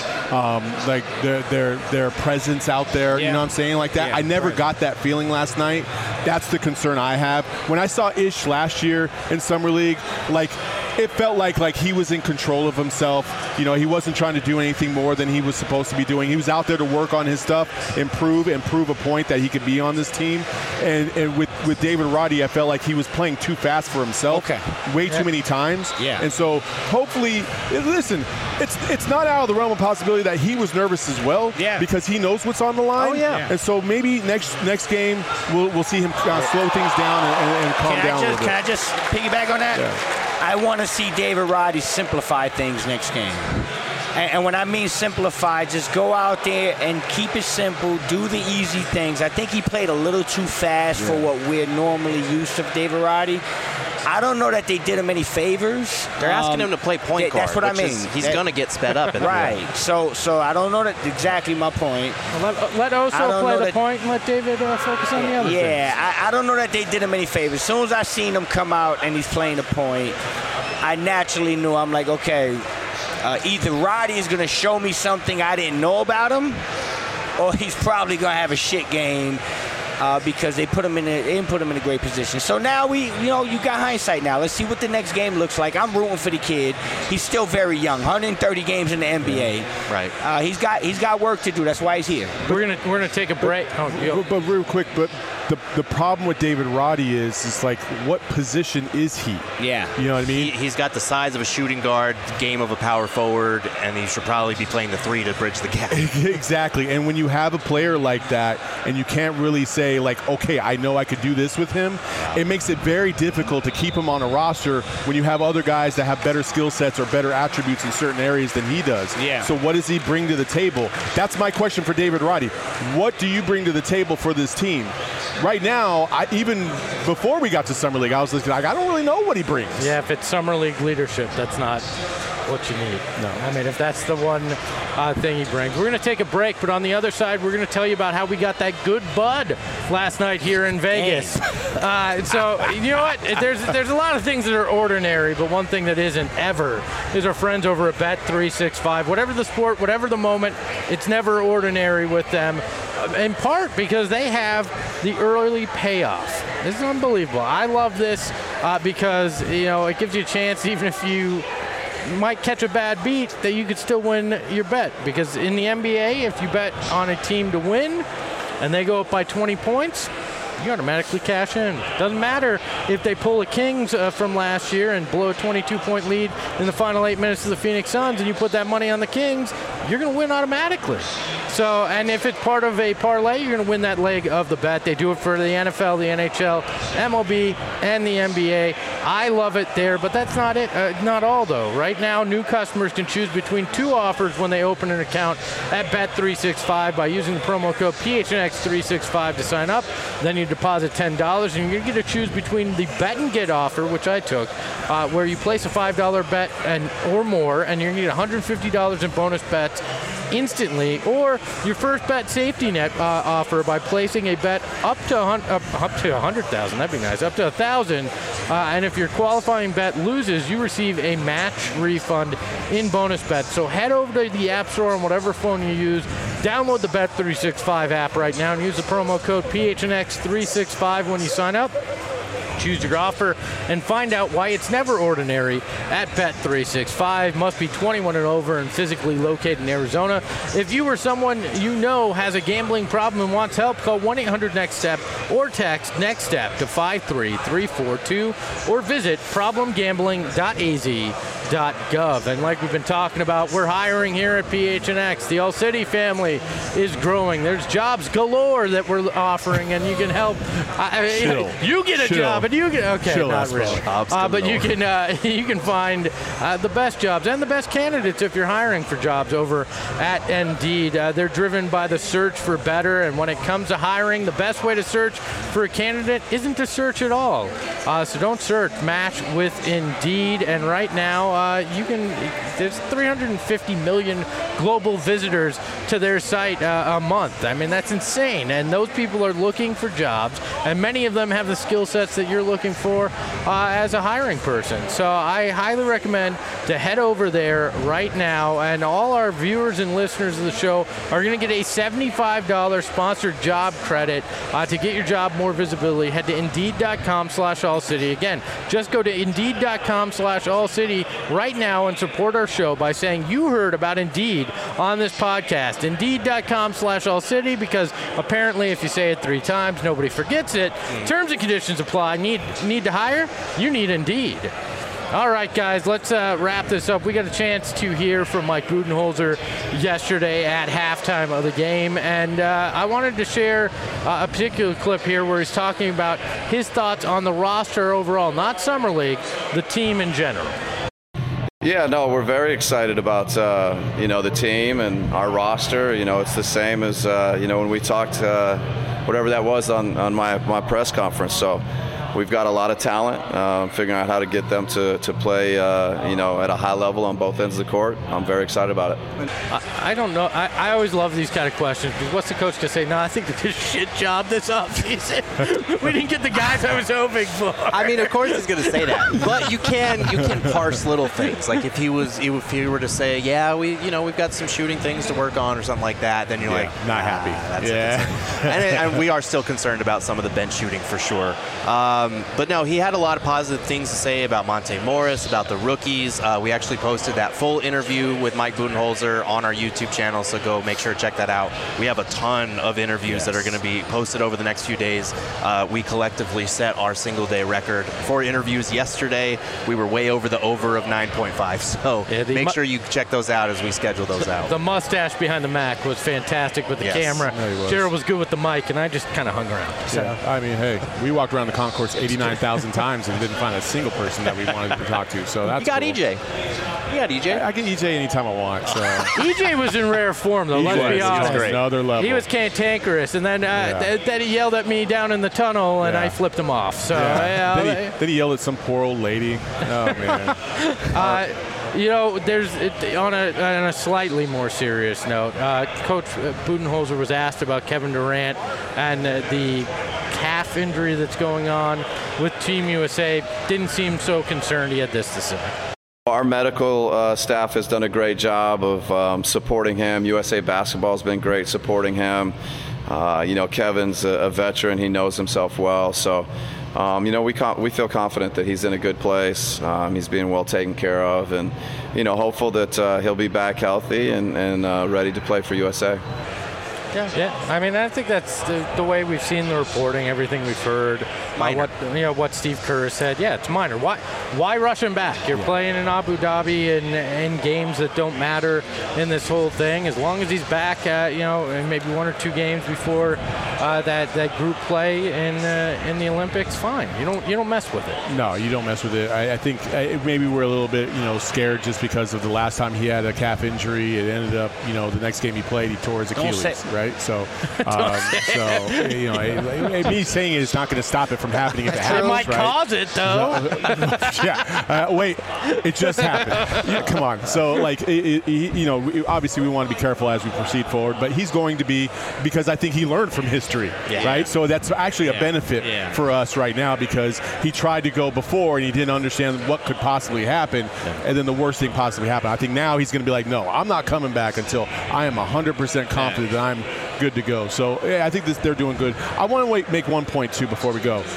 their presence out there. You know what I'm saying? That. I never got that feeling last night. That's the concern I have. When I saw Ish last year in Summer League, it felt like he was in control of himself. He wasn't trying to do anything more than he was supposed to be doing. He was out there to work on his stuff, improve a point that he could be on this team. And with David Roddy, I felt like he was playing too fast for himself. Way too many times. Yeah. And so hopefully, listen, it's not out of the realm of possibility that he was nervous as well. Yeah. Because he knows what's on the line. Oh, yeah. And so maybe next game we'll see him slow things down and calm down a little bit. Can I just piggyback on that? Yeah. I want to see David Roddy simplify things next game. And when I mean simplify, just go out there and keep it simple, do the easy things. I think he played a little too fast for what we're normally used to David Roddy. I don't know that they did him any favors. They're asking him to play point guard. That's what I mean. He's going to get sped up. Right. So I don't know that exactly my point. Well, let Oso play the point and let David focus on the other things. Yeah, I don't know that they did him any favors. As soon as I seen him come out and he's playing the point, I naturally knew, I'm like, okay, either Roddy is going to show me something I didn't know about him, or he's probably going to have a shit game. because they didn't put him in a great position. So now you got hindsight now. Let's see what the next game looks like. I'm rooting for the kid. He's still very young, 130 games in the NBA. Right. He's got work to do. That's why he's here. We're gonna take a break. But real quick, the problem with David Roddy is like, what position is he? Yeah. You know what I mean? He's got the size of a shooting guard, game of a power forward, and he should probably be playing the 3 to bridge the gap. Exactly. And when you have a player like that and you can't really say, like, okay, I know I could do this with him, it makes it very difficult to keep him on a roster when you have other guys that have better skill sets or better attributes in certain areas than he does. Yeah. So what does he bring to the table? That's my question for David Roddy. What do you bring to the table for this team? Right now, even before we got to Summer League, I was like, I don't really know what he brings. Yeah, if it's Summer League leadership, that's not what you need. No. I mean, if that's the one thing he brings. We're going to take a break, but on the other side, we're going to tell you about how we got that good bud last night here in Vegas. So, you know what? There's a lot of things that are ordinary, but one thing that isn't ever is our friends over at Bet365. Whatever the sport, whatever the moment, it's never ordinary with them. In part because they have the early payoff. This is unbelievable. I love this because, it gives you a chance, even if you might catch a bad beat, that you could still win your bet. Because in the NBA, if you bet on a team to win and they go up by 20 points, you automatically cash in. Doesn't matter if they pull a Kings from last year and blow a 22-point lead in the final 8 minutes of the Phoenix Suns and you put that money on the Kings, you're going to win automatically. So, and if it's part of a parlay, you're going to win that leg of the bet. They do it for the NFL, the NHL, MLB, and the NBA. I love it there, but that's not it. Not all, though. Right now, new customers can choose between 2 offers when they open an account at Bet365 by using the promo code PHNX365 to sign up. Then you deposit $10, and you're going to get to choose between the bet and get offer, which I took, where you place a $5 bet or more, and you're going to get $150 in bonus bets instantly, or your first bet safety net offer by placing a bet up to 100,000. That'd be nice. Up to 1,000, and if your qualifying bet loses, you receive a match refund in bonus bets. So head over to the App Store on whatever phone you use. Download the Bet365 app right now and use the promo code PHNX365 when you sign up. Choose your offer and find out why it's never ordinary at Bet365. Must be 21 and over and physically located in Arizona. If you or someone you know has a gambling problem and wants help, call 1-800-NEXT-STEP or text NEXT-STEP to 53342 or visit problemgambling.az.gov. And like we've been talking about, we're hiring here at PHNX. The All City family is growing. There's jobs galore that we're offering, and you can help. You get a job. But you can not really. But you can find the best jobs and the best candidates if you're hiring for jobs over at Indeed. They're driven by the search for better, and when it comes to hiring, the best way to search for a candidate isn't to search at all. So don't search. Match with Indeed, and right now there's 350 million global visitors to their site a month. I mean, that's insane, and those people are looking for jobs, and many of them have the skill sets that you're looking for as a hiring person. So I highly recommend to head over there right now, and all our viewers and listeners of the show are going to get a $75 sponsored job credit to get your job more visibility. Head to Indeed.com/AllCity. Again, just go to Indeed.com/AllCity right now and support our show by saying you heard about Indeed on this podcast. Indeed.com/AllCity, because apparently if you say it 3 times, nobody forgets it. Terms and conditions apply. Need to hire? You need Indeed. All right, guys, let's wrap this up. We got a chance to hear from Mike Budenholzer yesterday at halftime of the game, and I wanted to share a particular clip here where he's talking about his thoughts on the roster overall, not Summer League, the team in general. Yeah, no, we're very excited about, the team and our roster. It's the same as, when we talked, whatever that was on my press conference. So we've got a lot of talent. Figuring out how to get them to play, at a high level on both ends of the court. I'm very excited about it. I don't know. I always love these kind of questions. Because what's the coach to say? No, I think they did a shit job this offseason. We didn't get the guys I was hoping for. I mean, of course he's going to say that, but you can parse little things. Like if he were to say, yeah, we've got some shooting things to work on or something like that, then you're like not happy. And we are still concerned about some of the bench shooting for sure. But no, he had a lot of positive things to say about Monte Morris, about the rookies. We actually posted that full interview with Mike Budenholzer on our YouTube channel, so go make sure to check that out. We have a ton of interviews that are going to be posted over the next few days. We collectively set our single-day record for interviews yesterday. We were way over the over of 9.5, so make sure you check those out as we schedule those out. The mustache behind the Mac was fantastic with the camera. Gerald was good with the mic, and I just kind of hung around. So. Yeah, I mean, hey, we walked around the concourse 89,000 times and didn't find a single person that we wanted to talk to. So that's you got cool. EJ. You got EJ. I get EJ anytime I want. So. EJ was in rare form, though. Let's be honest. He was another level. He was cantankerous, and then then he yelled at me down in the tunnel, and I flipped him off. So then he yelled at some poor old lady. Oh man. There's on a slightly more serious note. Coach Budenholzer was asked about Kevin Durant and the calf injury that's going on with Team USA. Didn't seem so concerned. He had this to say. Our medical staff has done a great job of supporting him. USA Basketball has been great supporting him. Kevin's a veteran. He knows himself well. So, we feel confident that he's in a good place. He's being well taken care of, and hopeful that he'll be back healthy and ready to play for USA. Yeah. I mean, I think that's the way we've seen the reporting, everything we've heard. What Steve Kerr said. Yeah, it's minor. Why rush him back? You're playing in Abu Dhabi in games that don't matter in this whole thing. As long as he's back, maybe one or two games before that group play in the Olympics, fine. You don't mess with it. No, you don't mess with it. I think maybe we're a little bit scared just because of the last time he had a calf injury. It ended up the next game he played, he tore his Achilles, right? So, me saying it is not going to stop it from happening if it happens. It might cause it, though. Wait, it just happened. Yeah, come on. So, obviously we want to be careful as we proceed forward, but he's going to be, because I think he learned from history, right? So that's actually a benefit for us right now, because he tried to go before and he didn't understand what could possibly happen, and then the worst thing possibly happened. I think now he's going to be like, no, I'm not coming back until I am 100% confident that I'm good to go. So I think they're doing good. I want to make one point too before we go.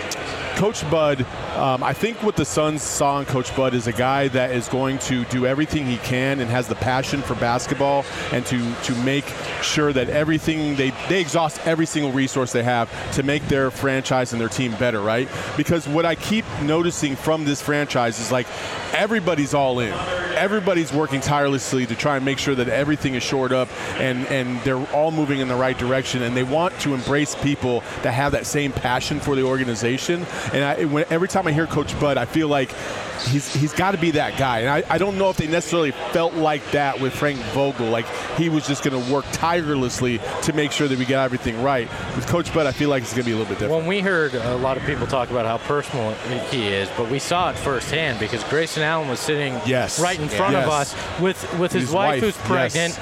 Coach Bud, I think what the Suns saw in Coach Bud is a guy that is going to do everything he can and has the passion for basketball, and to make sure that everything they exhaust every single resource they have to make their franchise and their team better, right? Because what I keep noticing from this franchise is everybody's all in. Everybody's working tirelessly to try and make sure that everything is shored up and they're all moving in the right direction, and they want to embrace people that have that same passion for the organization. And every time I hear Coach Bud, I feel like he's got to be that guy. And I don't know if they necessarily felt like that with Frank Vogel. Like he was just going to work tirelessly to make sure that we got everything right. With Coach Bud, I feel like it's going to be a little bit different. Well, we heard a lot of people talk about how personal he is, but we saw it firsthand because Grayson Allen was sitting right in front of us with his wife who's pregnant.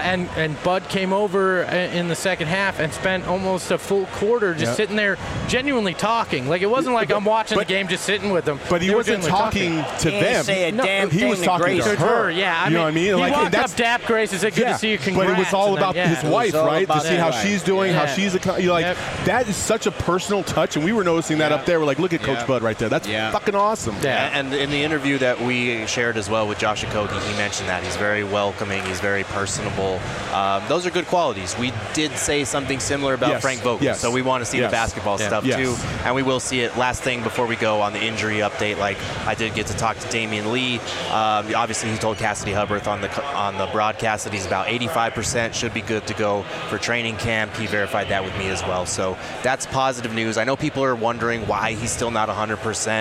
And Bud came over in the second half and spent almost a full quarter just sitting there genuinely talking. Like it wasn't like I'm watching the game just sitting with them. But he wasn't talking to them. He was talking to her. Yeah, you know what I mean? He walked up, dapped Grace, and said, "Good to see you. Congrats." But it was all about his wife, right? To see how she's doing, how she's that is such a personal touch, and we were noticing that up there. We're like, look at Coach Bud right there. That's fucking awesome. Yeah, and in the interview that we shared as well with Josh Okogie, he mentioned that he's very welcoming, he's very personable. Those are good qualities. We did say something similar about Frank Vogel, so we want to see the basketball stuff too, and we will see it. Last thing before we go on the injury update, I did get to talk to Damian Lee. Obviously, he told Cassidy Hubbarth on the broadcast that he's about 85%, should be good to go for training camp. He verified that with me as well. So that's positive news. I know people are wondering why he's still not 100%.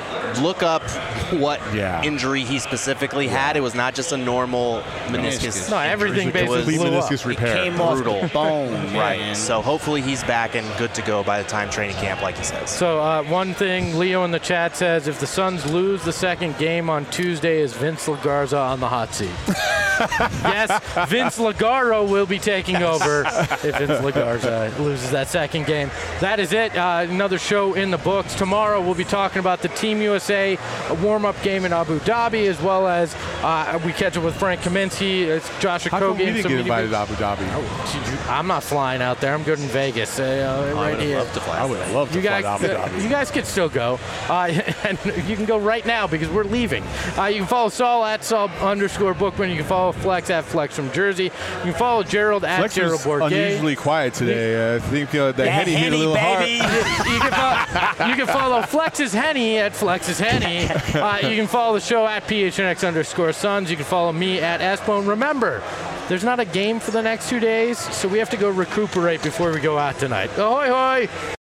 look up what injury he specifically had. It was not just a normal meniscus. No, everything basically blew meniscus up. repair. It came Brutal. off the bone. Right. So hopefully he's back and good to go by the time training camp, like he says. So one thing Leo in the chat says, if the Suns lose the second game on Tuesday, is Vince Lagarza on the hot seat? Yes, Vince Lagaro will be taking over if Vince Lagarza loses that second game. That is it. Another show in the books. Tomorrow we'll be talking about the Team USA warm-up game in Abu Dhabi, as well as we catch up with Frank Kaminsky. It's Josh Okogie. How come you didn't get invited to Abu Dhabi? I'm not flying out there. I'm good in Vegas. I would love to fly. I would love to fly to Abu Dhabi. You guys could still go. And you can go right now because we're leaving. You can follow Saul at Saul_Bookman. You can follow Flex at Flex from Jersey. You can follow Gerald at Flex Gerald was Bourget. unusually quiet today. I think the Henny hit a little baby. hard. You can follow Flex's Henny at Flex's Henny. You can follow the show at PHNX_Suns. You can follow me at Espone. Remember, there's not a game for the next 2 days, so we have to go recuperate before we go out tonight. Ahoy, hoy!